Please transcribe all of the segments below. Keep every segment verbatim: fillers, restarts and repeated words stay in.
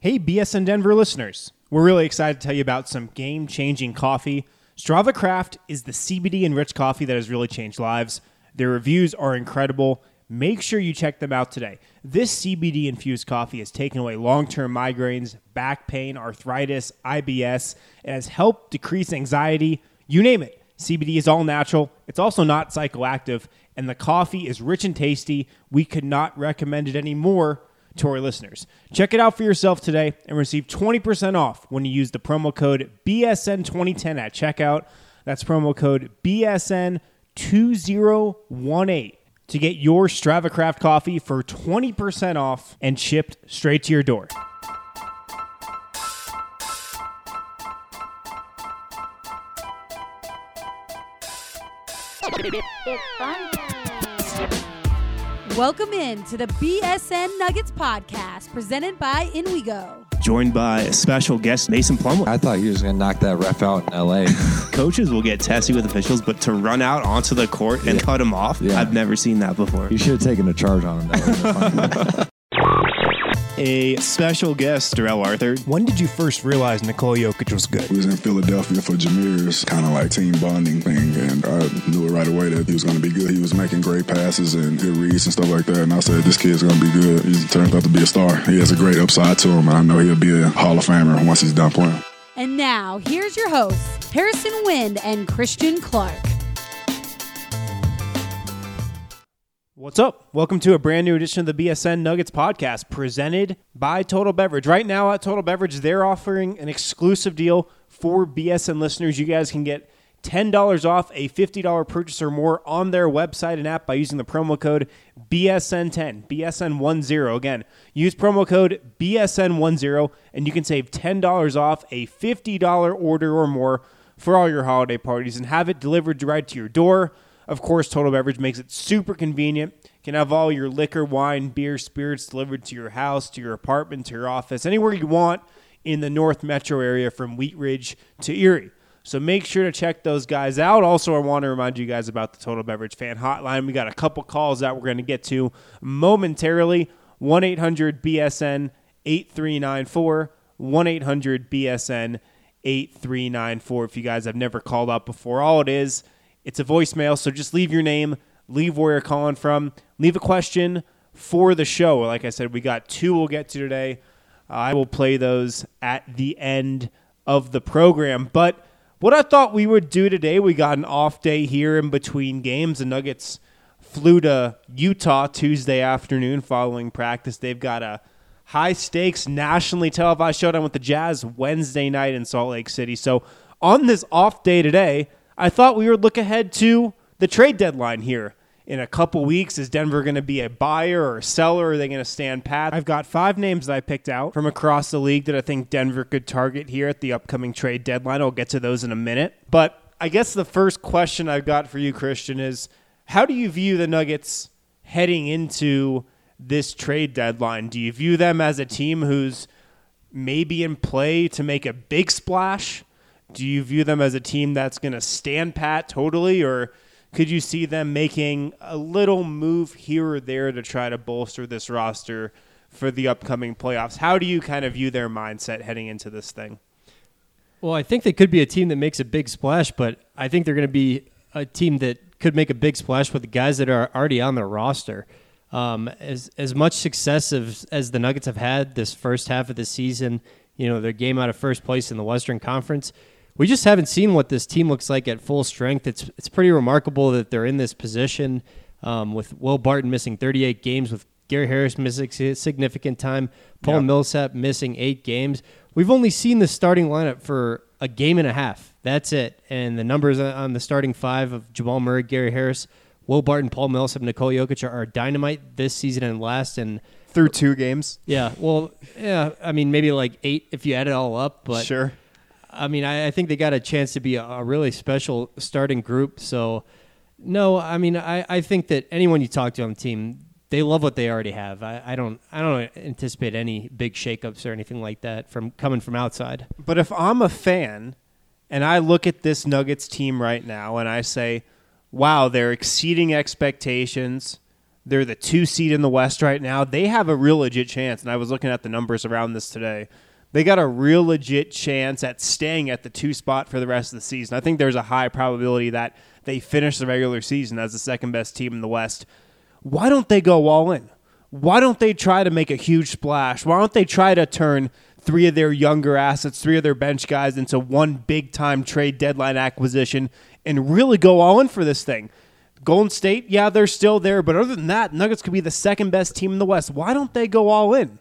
Hey, B S N Denver listeners. We're really excited to tell you about some game-changing coffee. Strava Craft is the C B D-enriched coffee that has really changed lives. Their reviews are incredible. Make sure you check them out today. This C B D-infused coffee has taken away long-term migraines, back pain, arthritis, I B S. It has helped decrease anxiety. You name it. C B D is all natural. It's also not psychoactive. And the coffee is rich and tasty. We could not recommend it anymore to our listeners. Check it out for yourself today and receive twenty percent off when you use the promo code B S N twenty ten at checkout. That's promo code B S N two zero one eight to get your Strava Craft coffee for twenty percent off and shipped straight to your door. It's fun time. Welcome in to the B S N Nuggets podcast presented by InWeGo. Joined by a special guest, Mason Plumlee. I thought you were just going to knock that ref out in L A. Coaches will get testy with officials, but to run out onto the court and Yeah. cut him off, Yeah. I've never seen that before. You should have taken a charge on him. That would have been fun. A special guest, Darrell Arthur. When did you first realize Nikola Jokic was good? We was in Philadelphia for Jameer's kind of like team bonding thing, and I knew it right away that he was going to be good. He was making great passes and good reads and stuff like that, and I said, this kid's going to be good. He turned out to be a star. He has a great upside to him, and I know he'll be a Hall of Famer once he's done playing. And now, here's your hosts, Harrison Wind and Christian Clark. What's up? Welcome to a brand new edition of the B S N Nuggets podcast presented by Total Beverage. Right now at Total Beverage, they're offering an exclusive deal for B S N listeners. You guys can get ten dollars off a fifty dollars purchase or more on their website and app by using the promo code B S N ten, B S N ten. Again, use promo code B S N ten and you can save ten dollars off a fifty dollars order or more for all your holiday parties and have it delivered right to your door. Of course, Total Beverage makes it super convenient. You can have all your liquor, wine, beer, spirits delivered to your house, to your apartment, to your office, anywhere you want in the North Metro area from Wheat Ridge to Erie. So make sure to check those guys out. Also, I want to remind you guys about the Total Beverage Fan Hotline. We got a couple calls that we're going to get to momentarily. one eight hundred B S N eight three nine four, one eight hundred B S N eight three nine four if you guys have never called up before. All it is, it's a voicemail, so just leave your name, leave where you're calling from, leave a question for the show. Like I said, we got two we'll get to today. Uh, I will play those at the end of the program. But what I thought we would do today, we got an off day here in between games. The Nuggets flew to Utah Tuesday afternoon following practice. They've got a high-stakes, nationally televised showdown with the Jazz Wednesday night in Salt Lake City. So on this off day today, I thought we would look ahead to the trade deadline here. In a couple weeks, is Denver going to be a buyer or a seller? Are they going to stand pat? I've got five names that I picked out from across the league that I think Denver could target here at the upcoming trade deadline. I'll get to those in a minute. But I guess the first question I've got for you, Christian, is how do you view the Nuggets heading into this trade deadline? Do you view them as a team who's maybe in play to make a big splash? Do you view them as a team that's going to stand pat totally, or could you see them making a little move here or there to try to bolster this roster for the upcoming playoffs? How do you kind of view their mindset heading into this thing? Well, I think they could be a team that makes a big splash, but I think they're going to be a team that could make a big splash with the guys that are already on their roster. Um, as as much success as, as the Nuggets have had this first half of the season, you know, their game out of first place in the Western Conference, we just haven't seen what this team looks like at full strength. It's it's pretty remarkable that they're in this position um, with Will Barton missing thirty-eight games, with Gary Harris missing significant time, Paul Yep. Millsap missing eight games. We've only seen the starting lineup for a game and a half. That's it. And the numbers on the starting five of Jamal Murray, Gary Harris, Will Barton, Paul Millsap, Nikola Jokic are, are dynamite this season and last. And Through two games? yeah, well, yeah, I mean, maybe like eight if you add it all up. But Sure. I mean, I, I think they got a chance to be a, a really special starting group. So, no, I mean, I, I think that anyone you talk to on the team, they love what they already have. I, I don't I don't anticipate any big shakeups or anything like that from coming from outside. But if I'm a fan and I look at this Nuggets team right now and I say, wow, they're exceeding expectations. They're the two seed in the West right now. They have a real legit chance, and I was looking at the numbers around this today. They got a real legit chance at staying at the two spot for the rest of the season. I think there's a high probability that they finish the regular season as the second best team in the West. Why don't they go all in? Why don't they try to make a huge splash? Why don't they try to turn three of their younger assets, three of their bench guys into one big-time trade deadline acquisition and really go all in for this thing? Golden State, yeah, they're still there, but other than that, Nuggets could be the second best team in the West. Why don't they go all in?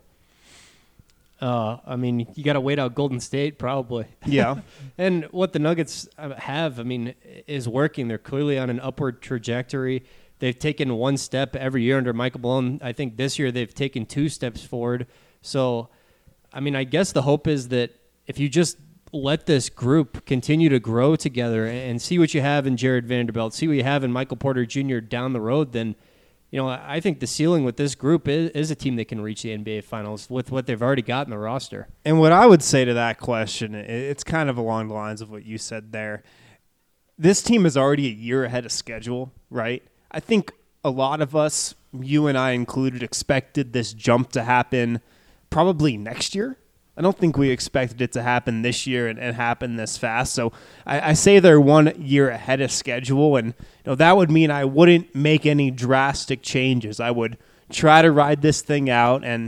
Uh, I mean, you got to wait out Golden State, probably. Yeah. And what the Nuggets have, I mean, is working. They're clearly on an upward trajectory. They've taken one step every year under Michael Malone. I think this year they've taken two steps forward. So, I mean, I guess the hope is that if you just let this group continue to grow together and see what you have in Jared Vanderbilt, see what you have in Michael Porter Junior down the road, then, you know, I think the ceiling with this group is, is a team that can reach the N B A Finals with what they've already got in the roster. And what I would say to that question, it's kind of along the lines of what you said there. This team is already a year ahead of schedule, right? I think a lot of us, you and I included, expected this jump to happen probably next year. I don't think we expected it to happen this year and, and happen this fast. So I, I say they're one year ahead of schedule, and you know that would mean I wouldn't make any drastic changes. I would try to ride this thing out, and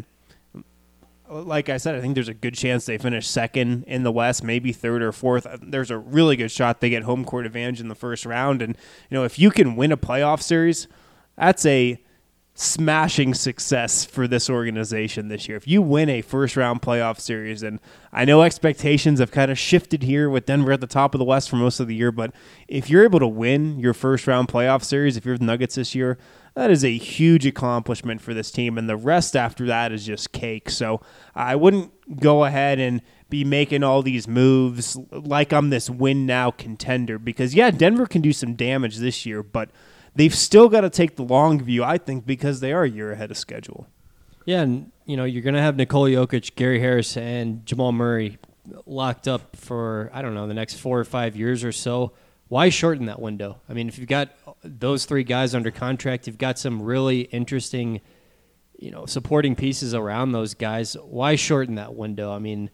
like I said, I think there's a good chance they finish second in the West, maybe third or fourth. There's a really good shot they get home court advantage in the first round, and you know if you can win a playoff series, that's a smashing success for this organization this year. If you win a first-round playoff series, and I know expectations have kind of shifted here with Denver at the top of the West for most of the year, but if you're able to win your first-round playoff series, if you're the Nuggets this year, that is a huge accomplishment for this team, and the rest after that is just cake. So I wouldn't go ahead and be making all these moves like I'm this win-now contender because, yeah, Denver can do some damage this year, but they've still got to take the long view, I think, because they are a year ahead of schedule. Yeah, and you know you're going to have Nikola Jokic, Gary Harris, and Jamal Murray locked up for, I don't know, the next four or five years or so. Why shorten that window? I mean, if you've got those three guys under contract, you've got some really interesting, you know, supporting pieces around those guys. Why shorten that window? I mean,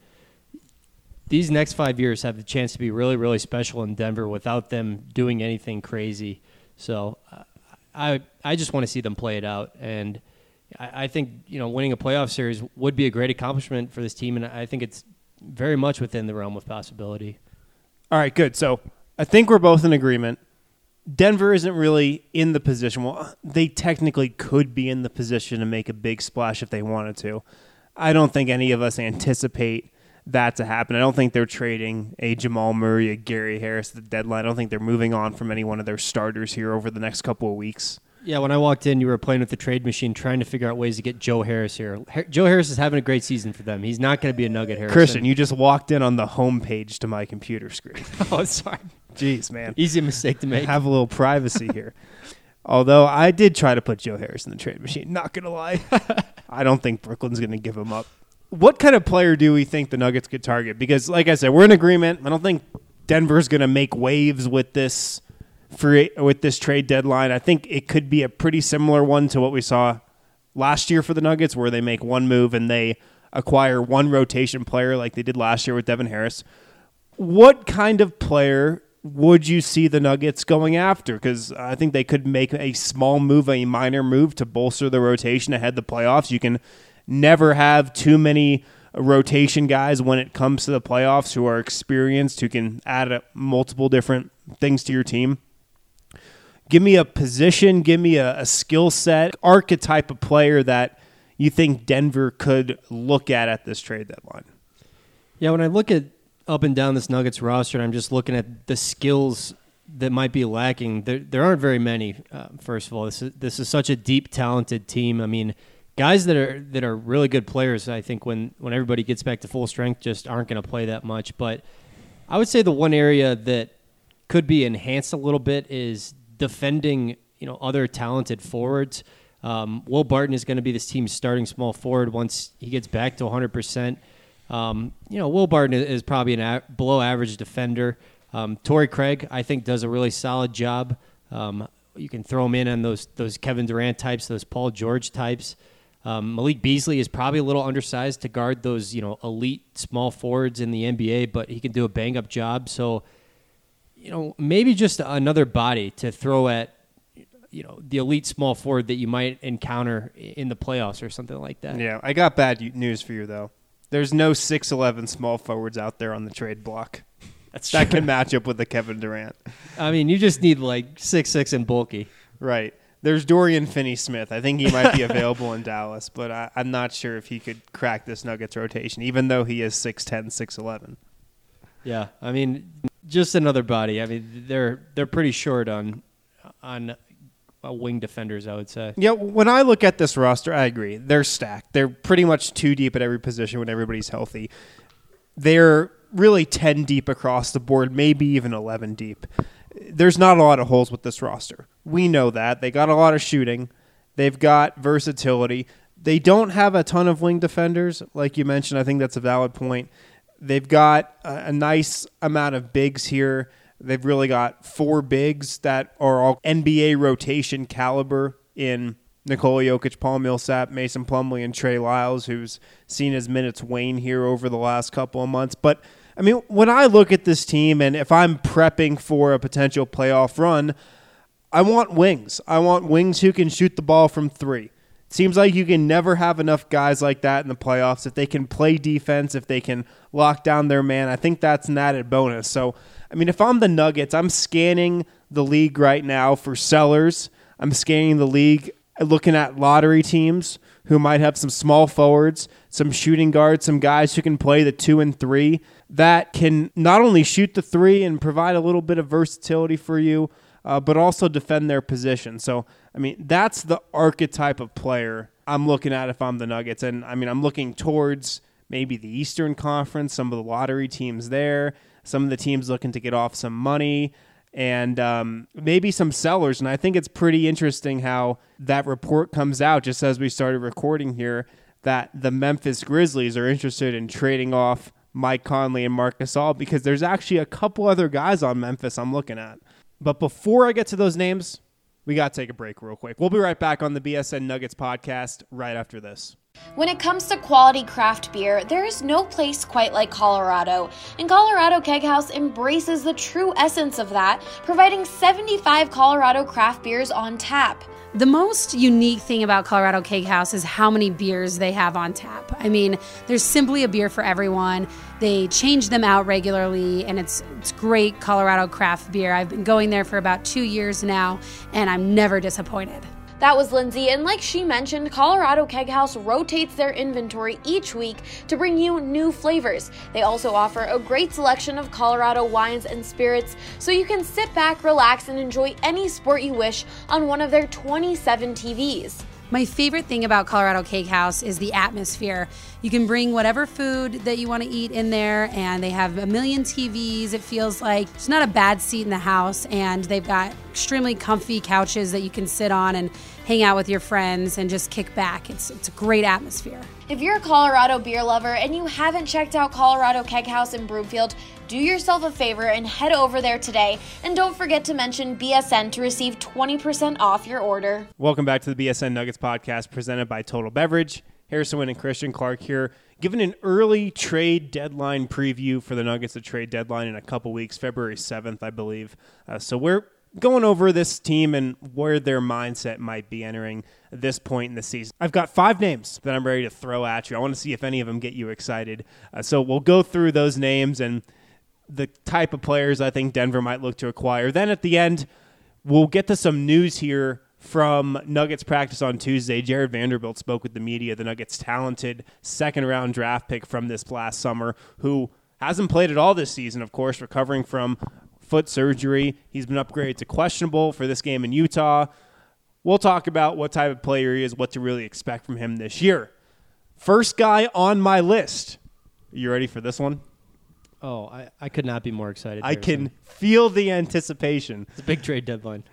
these next five years have the chance to be really, really special in Denver without them doing anything crazy. So uh, I I just want to see them play it out, and I, I think you know winning a playoff series would be a great accomplishment for this team, and I think it's very much within the realm of possibility. All right, good. So I think we're both in agreement. Denver isn't really in the position. Well, they technically could be in the position to make a big splash if they wanted to. I don't think any of us anticipate that to happen. I don't think they're trading a Jamal Murray, a Gary Harris at the deadline. I don't think they're moving on from any one of their starters here over the next couple of weeks. Yeah, when I walked in, you were playing with the trade machine trying to figure out ways to get Joe Harris here. Her- Joe Harris is having a great season for them. He's not going to be a Nugget Harrison. Christian, you just walked in on the homepage to my computer screen. Oh, sorry. Jeez, man. Easy mistake to make. Have a little privacy here. Although I did try to put Joe Harris in the trade machine. Not going to lie. I don't think Brooklyn's going to give him up. What kind of player do we think the Nuggets could target? Because, like I said, we're in agreement. I don't think Denver's going to make waves with this free with this trade deadline. I think it could be a pretty similar one to what we saw last year for the Nuggets, where they make one move and they acquire one rotation player like they did last year with Devin Harris. What kind of player would you see the Nuggets going after? Because I think they could make a small move, a minor move to bolster the rotation ahead of the playoffs. You can never have too many rotation guys when it comes to the playoffs who are experienced, who can add a, multiple different things to your team. Give me a position, give me a, a skill set, archetype of player that you think Denver could look at at this trade deadline. Yeah, when I look at up and down this Nuggets roster, and I'm just looking at the skills that might be lacking, there, there aren't very many, uh, first of all. This is, this is such a deep, talented team. I mean, guys that are that are really good players, I think when, when everybody gets back to full strength, just aren't going to play that much. But I would say the one area that could be enhanced a little bit is defending, you know, other talented forwards. Um, Will Barton is going to be this team's starting small forward once he gets back to one hundred percent. Um, you know, Will Barton is probably an a- below-average defender. Um, Torrey Craig, I think, does a really solid job. Um, you can throw him in on those those Kevin Durant types, those Paul George types. Um, Malik Beasley is probably a little undersized to guard those, you know, elite small forwards in the N B A, but he can do a bang-up job. So, you know, maybe just another body to throw at, you know, the elite small forward that you might encounter in the playoffs or something like that. Yeah, I got bad news for you, though. There's no six eleven small forwards out there on the trade block. That's that can match up with the Kevin Durant. I mean, you just need like six six and bulky. Right. There's Dorian Finney-Smith. I think he might be available in Dallas, but I, I'm not sure if he could crack this Nuggets rotation, even though he is six ten, six eleven. Yeah, I mean, just another body. I mean, they're they're pretty short on on uh, wing defenders, I would say. Yeah, when I look at this roster, I agree. They're stacked. They're pretty much two deep at every position when everybody's healthy. They're really ten deep across the board, maybe even eleven deep. There's not a lot of holes with this roster. We know that. They got a lot of shooting. They've got versatility. They don't have a ton of wing defenders, like you mentioned. I think that's a valid point. They've got a, a nice amount of bigs here. They've really got four bigs that are all N B A rotation caliber in Nikola Jokic, Paul Millsap, Mason Plumlee, and Trey Lyles, who's seen his minutes wane here over the last couple of months. But I mean, when I look at this team and if I'm prepping for a potential playoff run, I want wings. I want wings who can shoot the ball from three. It seems like you can never have enough guys like that in the playoffs. If they can play defense, if they can lock down their man, I think that's an added bonus. So, I mean, if I'm the Nuggets, I'm scanning the league right now for sellers. I'm scanning the league looking at lottery teams who might have some small forwards, some shooting guards, some guys who can play the two and three that can not only shoot the three and provide a little bit of versatility for you, uh, but also defend their position. So, I mean, that's the archetype of player I'm looking at if I'm the Nuggets. And, I mean, I'm looking towards maybe the Eastern Conference, some of the lottery teams there, some of the teams looking to get off some money, and um, maybe some sellers. And I think it's pretty interesting how that report comes out just as we started recording here, that the Memphis Grizzlies are interested in trading off Mike Conley and Marc Gasol, because there's actually a couple other guys on Memphis I'm looking at. But before I get to those names, we got to take a break real quick. We'll be right back on the B S N Nuggets podcast right after this. When it comes to quality craft beer, there is no place quite like Colorado, and Colorado Keg House embraces the true essence of that, providing seventy-five Colorado craft beers on tap. The most unique thing about Colorado Keg House is how many beers they have on tap. I mean, there's simply a beer for everyone. They change them out regularly, and it's it's great Colorado craft beer. I've been going there for about two years now, and I'm never disappointed. That was Lindsay, and like she mentioned, Colorado Keg House rotates their inventory each week to bring you new flavors. They also offer a great selection of Colorado wines and spirits, so you can sit back, relax, and enjoy any sport you wish on one of their twenty-seven T Vs. My favorite thing about Colorado Cake House is the atmosphere. You can bring whatever food that you want to eat in there, and they have a million T Vs. It feels like it's not a bad seat in the house, and they've got extremely comfy couches that you can sit on and hang out with your friends and just kick back. It's it's a great atmosphere. If you're a Colorado beer lover and you haven't checked out Colorado Keg House in Broomfield, do yourself a favor and head over there today. And don't forget to mention B S N to receive twenty percent off your order. Welcome back to the B S N Nuggets podcast presented by Total Beverage. Harrison Witt and Christian Clark here, giving an early trade deadline preview for the Nuggets. The trade deadline in a couple weeks, February seventh, I believe. Uh, so we're going over this team and where their mindset might be entering this point in the season. I've got five names that I'm ready to throw at you. I want to see if any of them get you excited. Uh, so we'll go through those names and the type of players I think Denver might look to acquire. Then at the end, we'll get to some news here from Nuggets practice on Tuesday. Jared Vanderbilt spoke with the media, the Nuggets' talented second-round draft pick from this last summer, who hasn't played at all this season, of course, recovering from foot surgery. He's been upgraded to questionable for this game in Utah. We'll talk about what type of player he is, what to really expect from him this year. First guy on my list. Are you ready for this one? Oh, I, I could not be more excited. I Harrison. can feel the anticipation. It's a big trade deadline.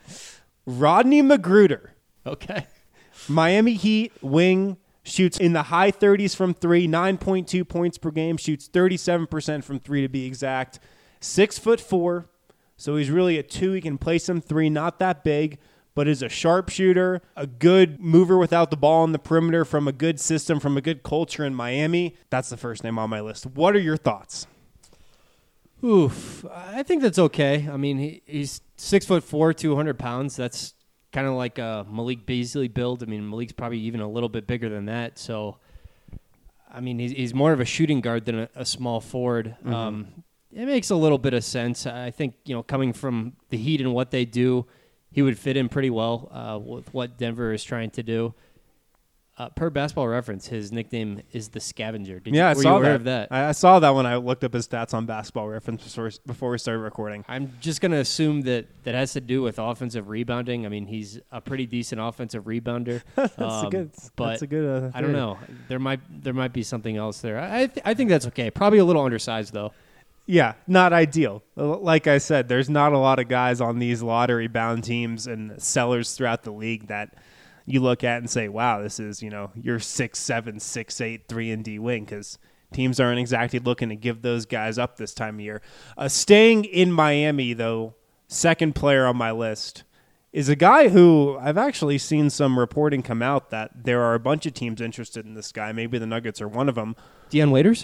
Rodney Magruder. Okay. Miami Heat wing, shoots in the high thirties from three, nine point two points per game, shoots thirty-seven percent from three to be exact. Six foot four, so he's really a two. He can play some three, not that big, but is a sharpshooter, a good mover without the ball on the perimeter from a good system, from a good culture in Miami. That's the first name on my list. What are your thoughts? Oof. I think that's okay. I mean, he, he's six foot four, two hundred pounds. That's kind of like a Malik Beasley build. I mean, Malik's probably even a little bit bigger than that. So, I mean, he's, he's more of a shooting guard than a, a small forward. Mm-hmm. Um, it makes a little bit of sense. I think, you know, coming from the Heat and what they do, he would fit in pretty well uh, with what Denver is trying to do. Uh, per Basketball Reference, his nickname is the Scavenger. Did yeah, you, I were saw you aware that. of that. I, I saw that when I looked up his stats on Basketball Reference before, before we started recording. I'm just going to assume that that has to do with offensive rebounding. I mean, he's a pretty decent offensive rebounder. that's um, a good. But that's a good. Uh, I don't know. There might there might be something else there. I th- I think that's okay. Probably a little undersized though. Yeah, not ideal. Like I said, there's not a lot of guys on these lottery-bound teams and sellers throughout the league that you look at and say, wow, this is, you know, your six seven, six eight, three and D wing, because teams aren't exactly looking to give those guys up this time of year. Uh, staying in Miami, though, second player on my list is a guy who I've actually seen some reporting come out that there are a bunch of teams interested in this guy. Maybe the Nuggets are one of them. Deion Waiters?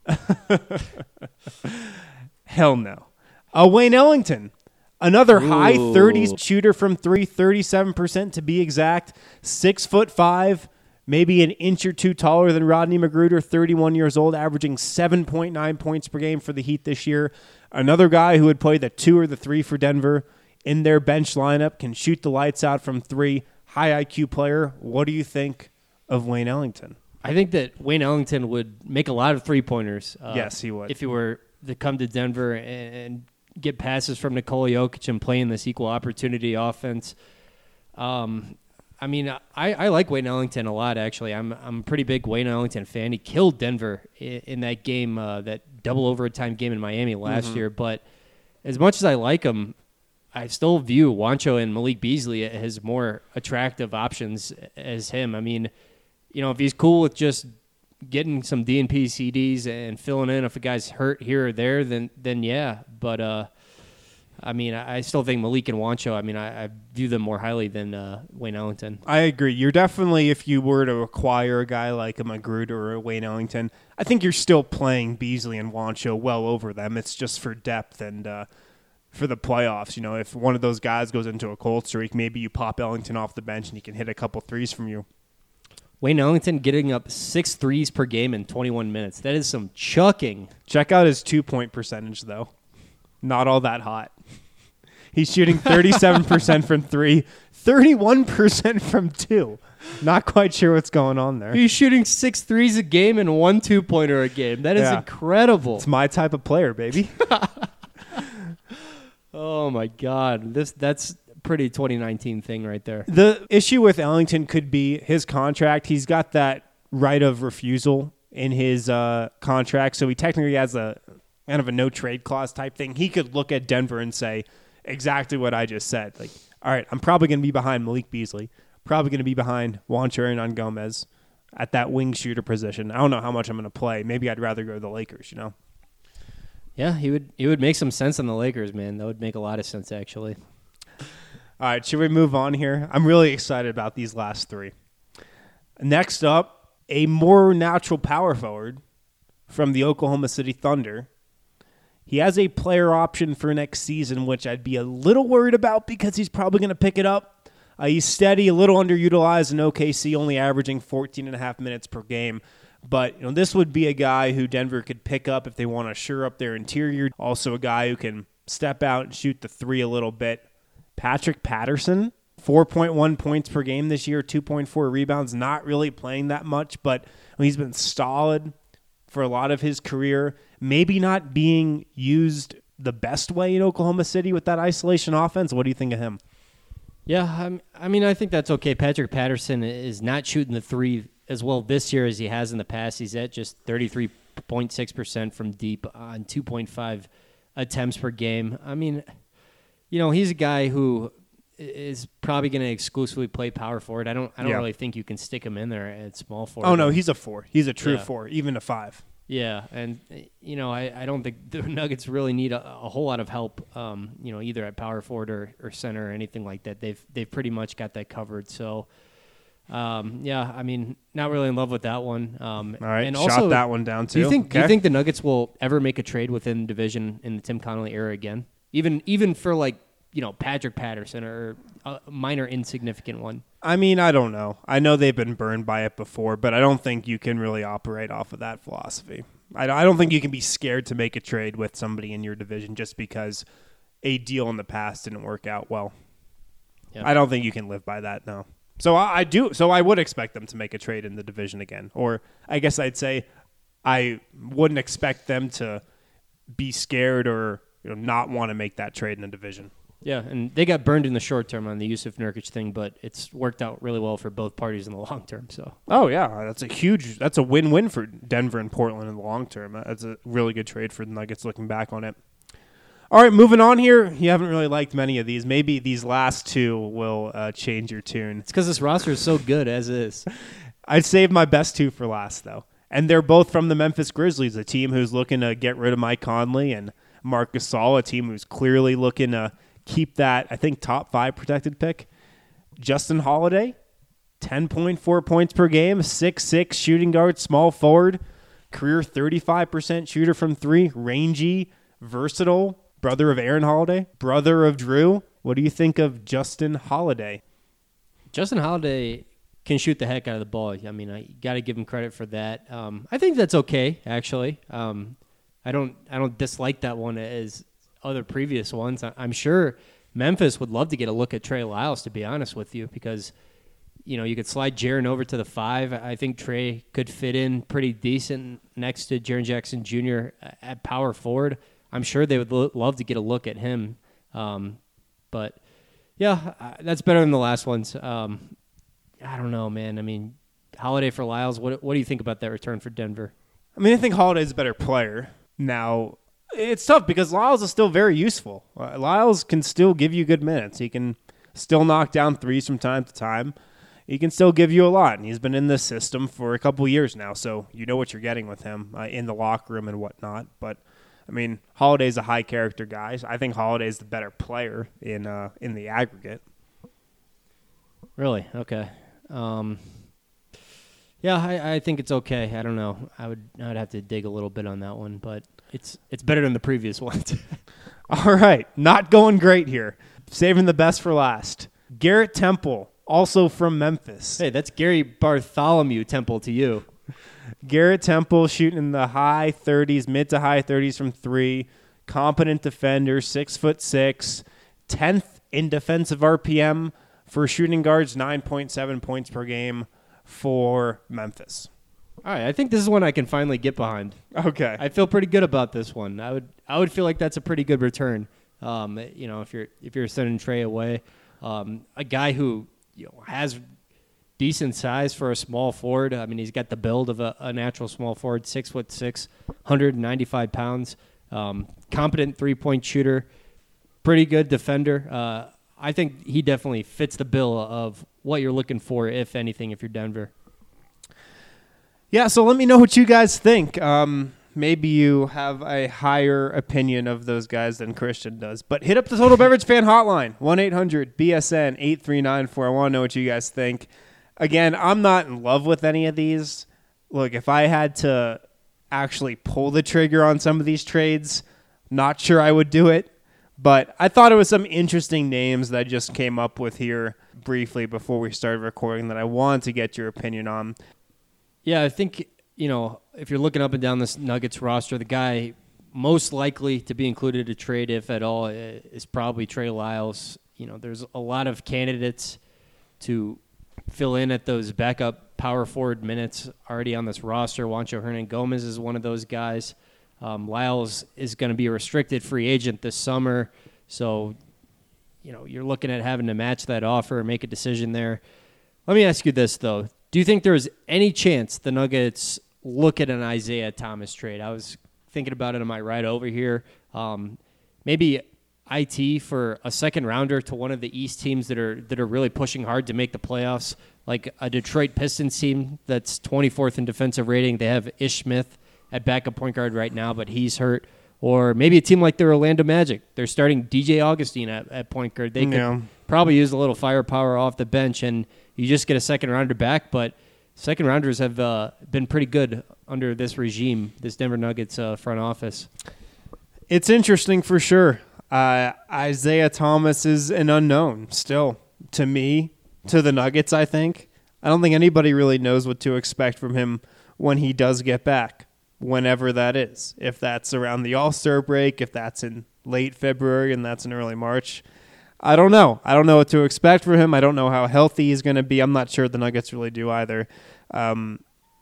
Hell no. Uh, Wayne Ellington. Another Ooh. high thirties shooter from three, thirty-seven percent to be exact. Six foot five, maybe an inch or two taller than Rodney Magruder, thirty-one years old, averaging seven point nine points per game for the Heat this year. Another guy who would play the two or the three for Denver in their bench lineup, can shoot the lights out from three, high I Q player. What do you think of Wayne Ellington? I think that Wayne Ellington would make a lot of three-pointers. Uh, Yes, he would. If he were to come to Denver and, and get passes from Nikola Jokic and play in this equal opportunity offense. Um, I mean, I, I like Wayne Ellington a lot, actually. I'm I'm a pretty big Wayne Ellington fan. He killed Denver in, in that game, uh, that double overtime game in Miami last mm-hmm. year. But as much as I like him, I still view Juancho and Malik Beasley as more attractive options as him. I mean, you know, if he's cool with just getting some D N P C Ds and filling in if a guy's hurt here or there, then then yeah. But uh, I mean, I, I still think Malik and Juancho, I mean, I, I view them more highly than uh, Wayne Ellington. I agree. You're definitely, if you were to acquire a guy like a Magruder or a Wayne Ellington, I think you're still playing Beasley and Juancho well over them. It's just for depth and uh, for the playoffs. You know, if one of those guys goes into a cold streak, maybe you pop Ellington off the bench and he can hit a couple threes from you. Wayne Ellington getting up six threes per game in twenty-one minutes. That is some chucking. Check out his two-point percentage, though. Not all that hot. He's shooting thirty-seven percent from three, thirty-one percent from two. Not quite sure what's going on there. He's shooting six threes a game and one two-pointer a game. That is Yeah. incredible. It's my type of player, baby. Oh, my God. This That's pretty twenty nineteen thing right there. The issue with Ellington could be his contract. He's got that right of refusal in his uh, contract, so he technically has a kind of a no-trade clause type thing. He could look at Denver and say exactly what I just said. Like, all right, I'm probably going to be behind Malik Beasley, probably going to be behind Juancho Hernan-Gomez at that wing shooter position. I don't know how much I'm going to play. Maybe I'd rather go to the Lakers, you know? Yeah, he would he would make some sense on the Lakers, man. That would make a lot of sense, actually. All right, should we move on here? I'm really excited about these last three. Next up, a more natural power forward from the Oklahoma City Thunder. He has a player option for next season, which I'd be a little worried about because he's probably going to pick it up. Uh, he's steady, a little underutilized in O K C, only averaging fourteen and a half minutes per game. But you know, this would be a guy who Denver could pick up if they want to shore up their interior. Also a guy who can step out and shoot the three a little bit. Patrick Patterson, four point one points per game this year, two point four rebounds, not really playing that much, but he's been solid for a lot of his career. Maybe not being used the best way in Oklahoma City with that isolation offense. What do you think of him? Yeah, I'm, I mean, I think that's okay. Patrick Patterson is not shooting the three as well this year as he has in the past. He's at just thirty-three point six percent from deep on two point five attempts per game. I mean, you know, he's a guy who is probably going to exclusively play power forward. I don't I don't Yeah. really think you can stick him in there at small forward. Oh, no, he's a four. He's a true Yeah. four, even a five. Yeah, and you know, I, I don't think the Nuggets really need a, a whole lot of help. Um, you know, either at power forward or, or center or anything like that. They've they've pretty much got that covered. So, um, yeah, I mean, not really in love with that one. Um, All right, and shot also, that one down too. Do you think? Okay. Do you think the Nuggets will ever make a trade within the division in the Tim Connolly era again? Even even for like you know Patrick Patterson or a minor insignificant one. I mean, I don't know. I know they've been burned by it before, but I don't think you can really operate off of that philosophy. I I don't think you can be scared to make a trade with somebody in your division just because a deal in the past didn't work out well. Yep. I don't think you can live by that, no. So I, I do. So I would expect them to make a trade in the division again. Or I guess I'd say I wouldn't expect them to be scared or you know, not want to make that trade in the division. Yeah, and they got burned in the short term on the Yusuf Nurkic thing, but it's worked out really well for both parties in the long term. So. Oh yeah, that's a huge, that's a win-win for Denver and Portland in the long term. That's a really good trade for the Nuggets looking back on it. All right, moving on here. You haven't really liked many of these. Maybe these last two will uh, change your tune. It's because this roster is so good as is. I'd save my best two for last though, and they're both from the Memphis Grizzlies, a team who's looking to get rid of Mike Conley and Marc Gasol, a team who's clearly looking to keep that, I think, top five protected pick. Justin Holiday, ten point four points per game, six six shooting guard, small forward, career thirty-five percent shooter from three, rangy, versatile, brother of Aaron Holiday, brother of Drew. What do you think of Justin Holiday? Justin Holiday can shoot the heck out of the ball. I mean, I got to give him credit for that. Um, I think that's okay, actually. Um, I don't I don't dislike that one as other previous ones. I'm sure Memphis would love to get a look at Trey Lyles, to be honest with you, because you know you could slide Jaren over to the five. I think Trey could fit in pretty decent next to Jaren Jackson Junior at power forward. I'm sure they would lo- love to get a look at him. Um, but yeah, that's better than the last ones. Um, I don't know, man. I mean, Holiday for Lyles. What what do you think about that return for Denver? I mean, I think Holiday's a better player now. It's tough because Lyles is still very useful. Uh, Lyles can still give you good minutes. He can still knock down threes from time to time. He can still give you a lot, and he's been in this system for a couple years now, so you know what you're getting with him uh, in the locker room and whatnot. But, I mean, Holiday's a high-character guy. So I think Holiday's the better player in uh, in the aggregate. Really? Okay. Um, yeah, I, I think it's okay. I don't know. I would I would have to dig a little bit on that one, but it's it's better than the previous ones. All right, not going great here. Saving the best for last. Garrett Temple, also from Memphis. Hey, that's Gary Bartholomew Temple to you. Garrett Temple shooting in the high thirties, mid to high thirties from three. Competent defender, six foot six, tenth in defensive R P M for shooting guards, nine point seven points per game for Memphis. All right, I think this is one I can finally get behind. Okay, I feel pretty good about this one. I would I would feel like that's a pretty good return. Um, you know, if you're if you're sending Trey away, um, a guy who you know has decent size for a small forward. I mean, he's got the build of a, a natural small forward, six foot six, one hundred ninety-five pounds. Um, competent three point shooter, pretty good defender. Uh, I think he definitely fits the bill of what you're looking for, if anything, if you're Denver. Yeah, so let me know what you guys think. Um, maybe you have a higher opinion of those guys than Christian does. But hit up the Total Beverage Fan Hotline, one eight hundred B S N eight three nine four. I want to know what you guys think. Again, I'm not in love with any of these. Look, if I had to actually pull the trigger on some of these trades, not sure I would do it. But I thought it was some interesting names that I just came up with here briefly before we started recording that I wanted to get your opinion on. Yeah, I think, you know, if you're looking up and down this Nuggets roster, the guy most likely to be included in a trade, if at all, is probably Trey Lyles. You know, there's a lot of candidates to fill in at those backup power forward minutes already on this roster. Juancho Hernan-Gomez is one of those guys. Um, Lyles is going to be a restricted free agent this summer, so you know you're looking at having to match that offer and make a decision there. Let me ask you this, though. Do you think there's any chance the Nuggets look at an Isaiah Thomas trade? I was thinking about it on my ride over here. Um, maybe I T for a second rounder to one of the East teams that are that are really pushing hard to make the playoffs, like a Detroit Pistons team that's twenty-fourth in defensive rating. They have Ish Smith at backup point guard right now, but he's hurt. Or maybe a team like the Orlando Magic. They're starting D J Augustine at, at point guard. They could Yeah. probably use a little firepower off the bench, and you just get a second rounder back. But second rounders have uh, been pretty good under this regime, this Denver Nuggets uh, front office. It's interesting for sure. Uh, Isaiah Thomas is an unknown still to me, to the Nuggets, I think. I don't think anybody really knows what to expect from him when he does get back, whenever that is. If that's around the All-Star break, if that's in late February and that's in early March. I don't know. I don't know what to expect from him. I don't know how healthy he's going to be. I'm not sure the Nuggets really do either. Um,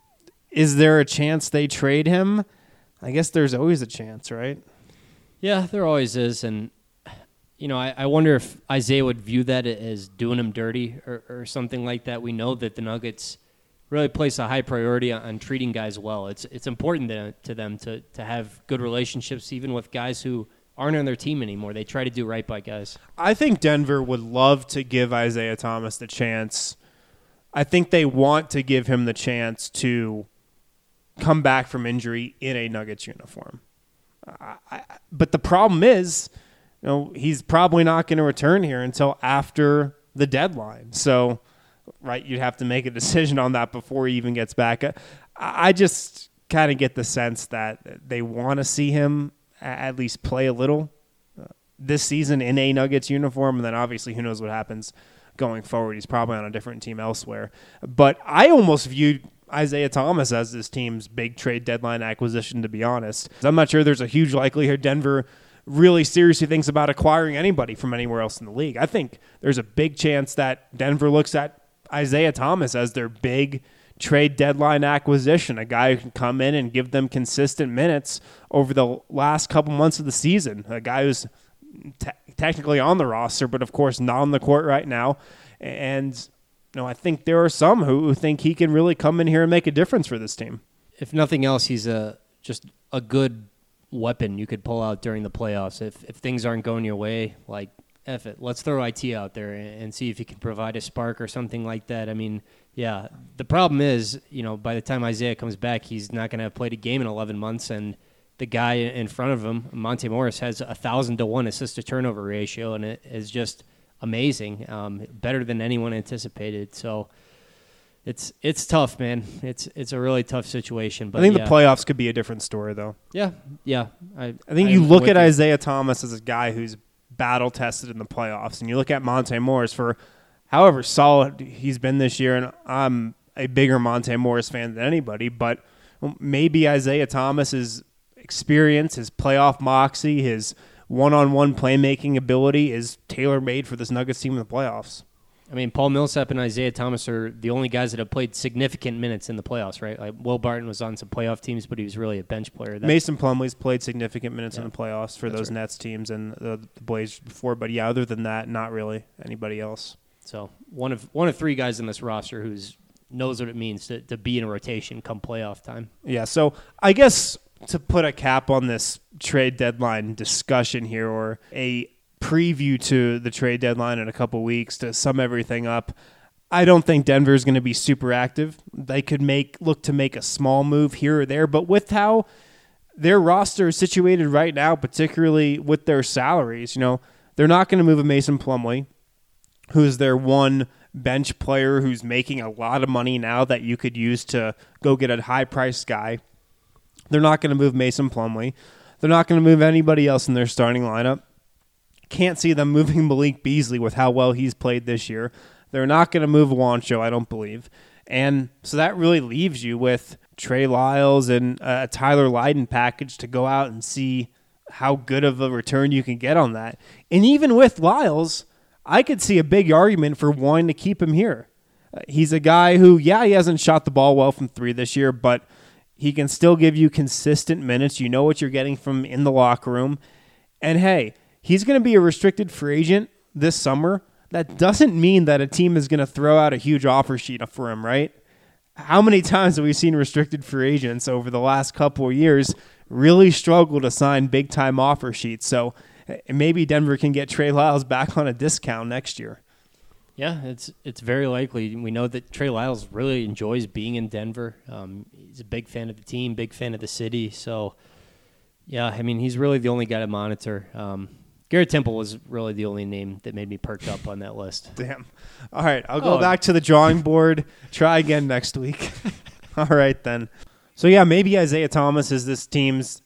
is there a chance they trade him? I guess there's always a chance, right? Yeah, there always is. And, you know, I, I wonder if Isaiah would view that as doing him dirty or, or something like that. We know that the Nuggets really place a high priority on, on treating guys well. It's it's important to, to them to, to have good relationships, even with guys who aren't on their team anymore. They try to do right by guys. I think Denver would love to give Isaiah Thomas the chance. I think they want to give him the chance to come back from injury in a Nuggets uniform. I, I, but the problem is, you know, he's probably not going to return here until after the deadline. So, right, you'd have to make a decision on that before he even gets back. I, I just kind of get the sense that they want to see him at least play a little uh, this season in a Nuggets uniform, and then obviously who knows what happens going forward. He's probably on a different team elsewhere. But I almost viewed Isaiah Thomas as this team's big trade deadline acquisition, to be honest. I'm not sure there's a huge likelihood Denver really seriously thinks about acquiring anybody from anywhere else in the league. I think there's a big chance that Denver looks at Isaiah Thomas as their big trade deadline acquisition, a guy who can come in and give them consistent minutes over the last couple months of the season, a guy who's te- technically on the roster, but of course not on the court right now. And you know, I think there are some who, who think he can really come in here and make a difference for this team. If nothing else, he's a just a good weapon you could pull out during the playoffs. If if things aren't going your way, like, F it, let's throw I T out there and see if he can provide a spark or something like that. I mean, yeah, the problem is, you know, by the time Isaiah comes back, he's not going to have played a game in eleven months, and the guy in front of him, Monte Morris, has a one thousand to one assist-to-turnover ratio, and it is just amazing, um, better than anyone anticipated. So it's it's tough, man. It's it's a really tough situation. But I think yeah. the playoffs could be a different story, though. Yeah, yeah. I, I think I'm you look with at you. Isaiah Thomas as a guy who's battle-tested in the playoffs, and you look at Monte Morris for however solid he's been this year, and I'm a bigger Monte Morris fan than anybody, but maybe Isaiah Thomas's experience, his playoff moxie, his one-on-one playmaking ability is tailor-made for this Nuggets team in the playoffs. I mean, Paul Millsap and Isaiah Thomas are the only guys that have played significant minutes in the playoffs, right? Like Will Barton was on some playoff teams, but he was really a bench player. That's, Mason Plumlee's played significant minutes Yeah. in the playoffs for That's those right. Nets teams and the, the Blazers before, but yeah, other than that, not really anybody else. So one of one of three guys in this roster who's knows what it means to, to be in a rotation come playoff time. Yeah, so I guess to put a cap on this trade deadline discussion here, or a preview to the trade deadline in a couple weeks to sum everything up, I don't think Denver is going to be super active. They could make look to make a small move here or there, but with how their roster is situated right now, particularly with their salaries, you know, they're not going to move a Mason Plumlee, who's their one bench player who's making a lot of money now that you could use to go get a high-priced guy. They're not going to move Mason Plumlee. They're not going to move anybody else in their starting lineup. Can't see them moving Malik Beasley with how well he's played this year. They're not going to move Juancho, I don't believe. And so that really leaves you with Trey Lyles and a Tyler Lydon package to go out and see how good of a return you can get on that. And even with Lyles, I could see a big argument for wanting to keep him here. Uh, he's a guy who, yeah, he hasn't shot the ball well from three this year, but he can still give you consistent minutes. You know what you're getting from in the locker room. And hey, he's going to be a restricted free agent this summer. That doesn't mean that a team is going to throw out a huge offer sheet for him, right? How many times have we seen restricted free agents over the last couple of years really struggle to sign big-time offer sheets? So maybe Denver can get Trey Lyles back on a discount next year. Yeah, it's it's very likely. We know that Trey Lyles really enjoys being in Denver. Um, he's a big fan of the team, big fan of the city. So, yeah, I mean, he's really the only guy to monitor. Um, Garrett Temple was really the only name that made me perk up on that list. Damn. All right, I'll go Oh. back to the drawing board. Try again next week. All right, then. So, yeah, maybe Isaiah Thomas is this team's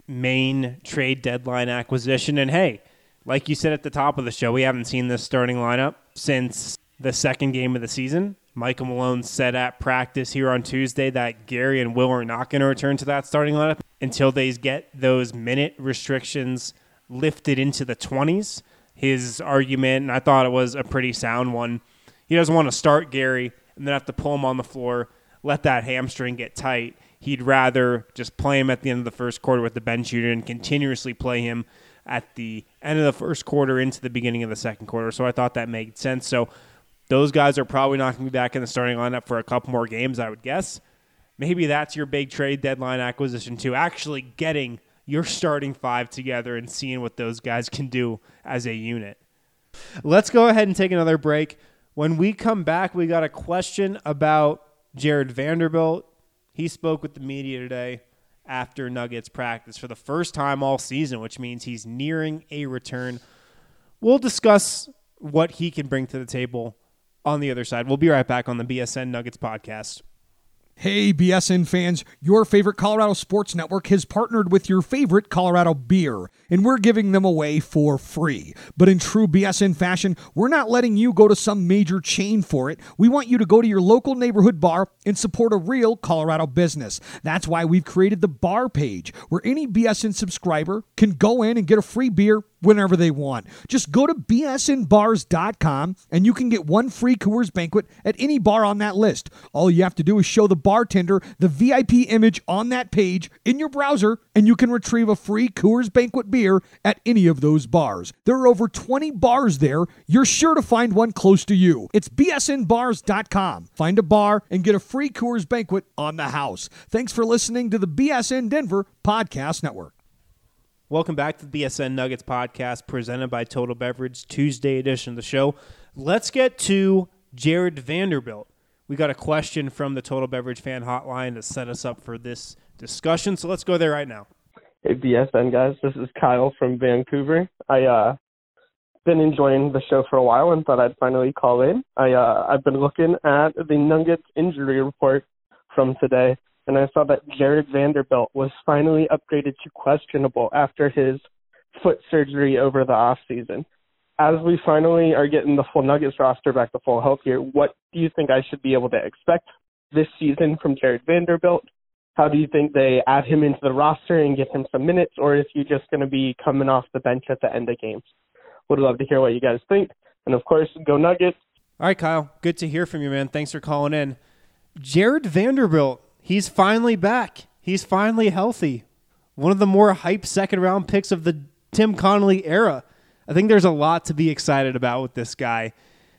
main trade deadline acquisition. And, hey, like you said at the top of the show, we haven't seen this starting lineup since the second game of the season. Michael Malone said at practice here on Tuesday that Gary and Will are not going to return to that starting lineup until they get those minute restrictions lifted into the twenties. His argument, and I thought it was a pretty sound one, he doesn't want to start Gary and then have to pull him on the floor, let that hamstring get tight. He'd rather just play him at the end of the first quarter with the bench unit and continuously play him at the end of the first quarter into the beginning of the second quarter. So I thought that made sense. So those guys are probably not going to be back in the starting lineup for a couple more games, I would guess. Maybe that's your big trade deadline acquisition too, actually getting your starting five together and seeing what those guys can do as a unit. Let's go ahead and take another break. When we come back, we got a question about Jared Vanderbilt. He spoke with the media today after Nuggets practice for the first time all season, which means he's nearing a return. We'll discuss what he can bring to the table on the other side. We'll be right back on the B S N Nuggets podcast. Hey, B S N fans, your favorite Colorado Sports Network has partnered with your favorite Colorado beer, and we're giving them away for free. But in true B S N fashion, we're not letting you go to some major chain for it. We want you to go to your local neighborhood bar and support a real Colorado business. That's why we've created the bar page, where any B S N subscriber can go in and get a free beer whenever they want. Just go to B S N bars dot com and you can get one free Coors Banquet at any bar on that list. All you have to do is show the bartender the V I P image on that page in your browser, and you can retrieve a free Coors Banquet beer at any of those bars. There are over twenty bars there. You're sure to find one close to you. It's B S N bars dot com. Find a bar and get a free Coors Banquet on the house. Thanks for listening to the B S N Denver Podcast Network. Welcome back to the B S N Nuggets podcast presented by Total Beverage, Tuesday edition of the show. Let's get to Jared Vanderbilt. We got a question from the Total Beverage fan hotline to set us up for this discussion, so let's go there right now. Hey, B S N guys, this is Kyle from Vancouver. I uh been enjoying the show for a while and thought I'd finally call in. I uh I've been looking at the Nuggets injury report from today, and I saw that Jared Vanderbilt was finally upgraded to questionable after his foot surgery over the offseason. As we finally are getting the full Nuggets roster back to full health here, what do you think I should be able to expect this season from Jared Vanderbilt? How do you think they add him into the roster and get him some minutes, or is he just going to be coming off the bench at the end of games? Would love to hear what you guys think. And, of course, go Nuggets. All right, Kyle, good to hear from you, man. Thanks for calling in. Jared Vanderbilt, he's finally back. He's finally healthy. One of the more hyped second-round picks of the Tim Connolly era. I think there's a lot to be excited about with this guy.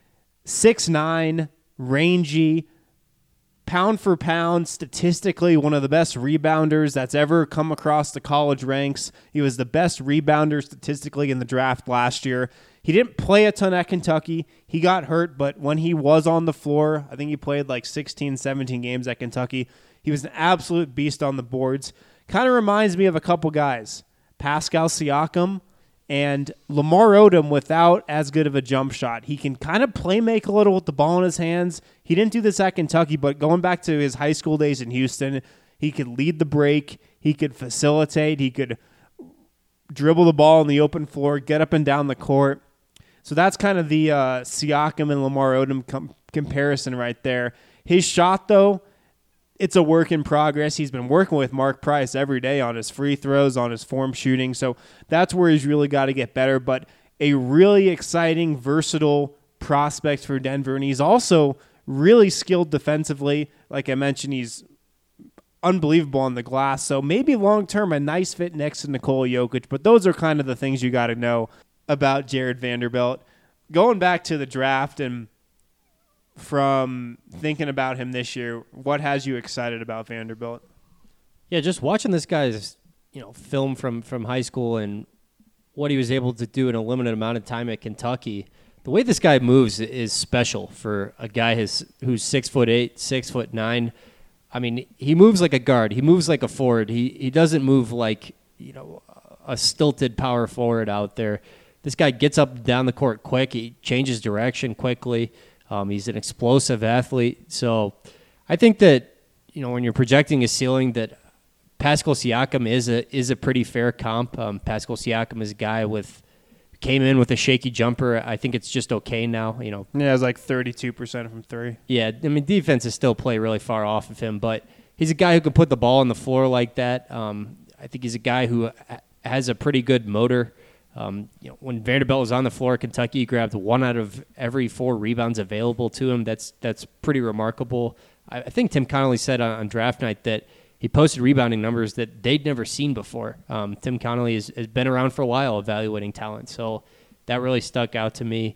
six nine, rangy, pound for pound, statistically one of the best rebounders that's ever come across the college ranks. He was the best rebounder statistically in the draft last year. He didn't play a ton at Kentucky. He got hurt, but when he was on the floor, I think he played like sixteen, seventeen games at Kentucky. He was an absolute beast on the boards. Kind of reminds me of a couple guys. Pascal Siakam and Lamar Odom without as good of a jump shot. He can kind of play make a little with the ball in his hands. He didn't do this at Kentucky, but going back to his high school days in Houston, he could lead the break. He could facilitate. He could dribble the ball on the open floor, get up and down the court. So that's kind of the uh, Siakam and Lamar Odom com- comparison right there. His shot, though, it's a work in progress. He's been working with Mark Price every day on his free throws, on his form shooting. So that's where he's really got to get better. But a really exciting, versatile prospect for Denver. And he's also really skilled defensively. Like I mentioned, he's unbelievable on the glass. So maybe long-term a nice fit next to Nikola Jokic. But those are kind of the things you got to know about Jared Vanderbilt. Going back to the draft and from thinking about him this year, what has you excited about Vanderbilt? Yeah, just watching this guy's, you know, film from, from high school and what he was able to do in a limited amount of time at Kentucky, the way this guy moves is special for a guy who's, who's six foot eight, six foot nine. I mean, he moves like a guard. He moves like a forward. He he doesn't move like, you know, a stilted power forward out there. This guy gets up and down the court quick. He changes direction quickly. Um, he's an explosive athlete. So I think that, you know, when you're projecting a ceiling, that Pascal Siakam is a is a pretty fair comp. Um, Pascal Siakam is a guy with came in with a shaky jumper. I think it's just okay now. You know, yeah, it was like thirty-two percent from three. Yeah, I mean, defenses still play really far off of him, but he's a guy who can put the ball on the floor like that. Um, I think he's a guy who has a pretty good motor. Um, you know, when Vanderbilt was on the floor, Kentucky grabbed one out of every four rebounds available to him. That's that's pretty remarkable. I, I think Tim Connolly said on, on draft night that he posted rebounding numbers that they'd never seen before. Um, Tim Connolly has, has been around for a while evaluating talent, so that really stuck out to me.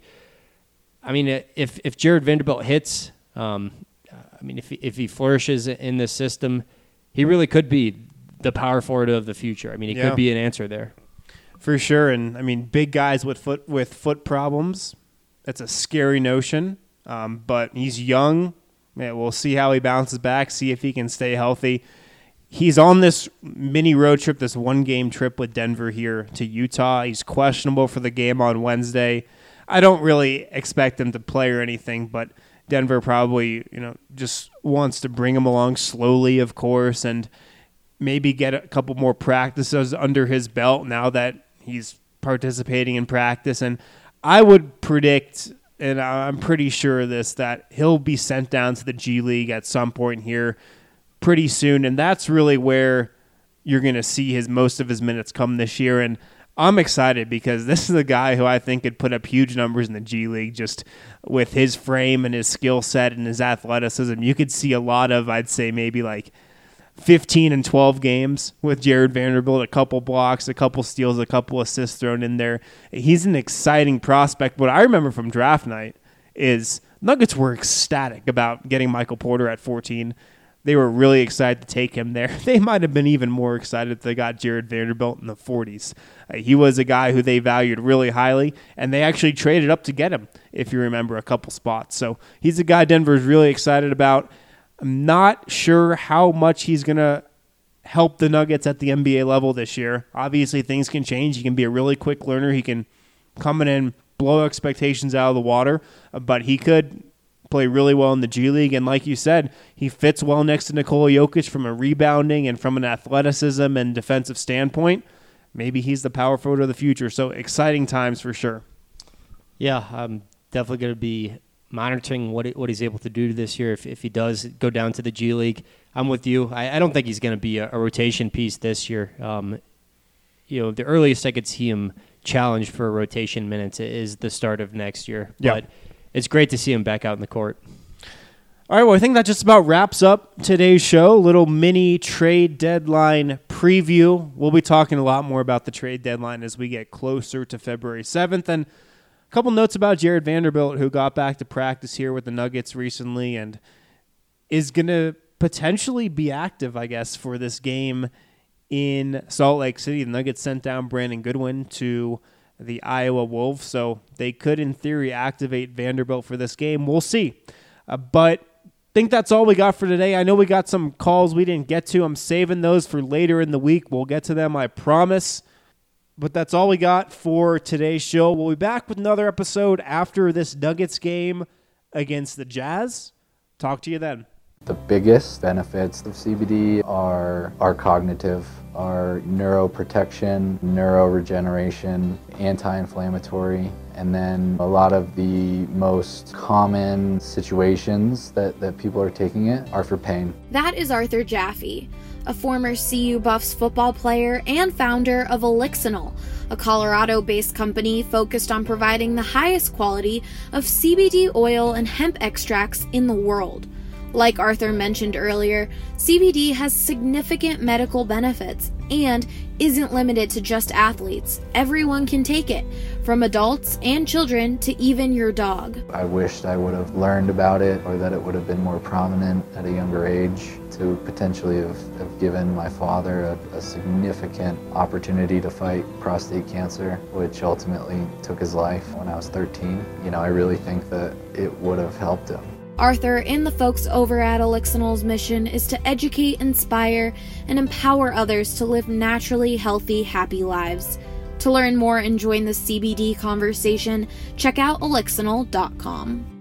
I mean, if if Jared Vanderbilt hits, um, I mean, if he, if he flourishes in this system, he really could be the power forward of the future. I mean, he yeah. could be an answer there. For sure, and I mean, big guys with foot with foot problems, that's a scary notion, um, but he's young. Yeah, we'll see how he bounces back, see if he can stay healthy. He's on this mini road trip, this one-game trip with Denver here to Utah. He's questionable for the game on Wednesday. I don't really expect him to play or anything, but Denver probably, you know, just wants to bring him along slowly, of course, and maybe get a couple more practices under his belt now that he's participating in practice. And I would predict, and I'm pretty sure of this, that he'll be sent down to the G League at some point here pretty soon, and that's really where you're going to see his most of his minutes come this year. And I'm excited because this is a guy who I think could put up huge numbers in the G League just with his frame and his skill set and his athleticism. You could see a lot of, I'd say maybe like fifteen and twelve games with Jared Vanderbilt, a couple blocks, a couple steals, a couple assists thrown in there. He's an exciting prospect. What I remember from draft night is Nuggets were ecstatic about getting Michael Porter at fourteen. They were really excited to take him there. They might have been even more excited if they got Jared Vanderbilt in the forties. Uh, he was a guy who they valued really highly, and they actually traded up to get him, if you remember, a couple spots. So he's a guy Denver's really excited about. I'm not sure how much he's going to help the Nuggets at the N B A level this year. Obviously, things can change. He can be a really quick learner. He can come in and blow expectations out of the water, but he could play really well in the G League, and like you said, he fits well next to Nikola Jokic from a rebounding and from an athleticism and defensive standpoint. Maybe he's the power forward of the future, so exciting times for sure. Yeah, I'm definitely going to be monitoring what he, what he's able to do this year if, if he does go down to the G League. I'm with you. I, I don't think he's going to be a, a rotation piece this year. Um, you know, the earliest I could see him challenged for rotation minutes is the start of next year. Yeah. But it's great to see him back out in the court. All right, well, I think that just about wraps up today's show. Little mini trade deadline preview. We'll be talking a lot more about the trade deadline as we get closer to February seventh. And a couple notes about Jared Vanderbilt, who got back to practice here with the Nuggets recently and is going to potentially be active, I guess, for this game in Salt Lake City. The Nuggets sent down Brandon Goodwin to the Iowa Wolves, so they could, in theory, activate Vanderbilt for this game. We'll see. Uh, but I think that's all we got for today. I know we got some calls we didn't get to. I'm saving those for later in the week. We'll get to them, I promise. But that's all we got for today's show. We'll be back with another episode after this Nuggets game against the Jazz. Talk to you then. The biggest benefits of C B D are, are cognitive, are neuroprotection, neuroregeneration, anti-inflammatory, and then a lot of the most common situations that, that people are taking it are for pain. That is Arthur Jaffe, a former C U Buffs football player and founder of Elixinol, a Colorado-based company focused on providing the highest quality of C B D oil and hemp extracts in the world. Like Arthur mentioned earlier, C B D has significant medical benefits and isn't limited to just athletes. Everyone can take it, from adults and children to even your dog. I wished I would have learned about it, or that it would have been more prominent at a younger age to to potentially have, have given my father a, a significant opportunity to fight prostate cancer, which ultimately took his life when I was thirteen. You know, I really think that it would have helped him. Arthur and the folks over at Elixinol's mission is to educate, inspire, and empower others to live naturally healthy, happy lives. To learn more and join the C B D conversation, check out elixinol dot com.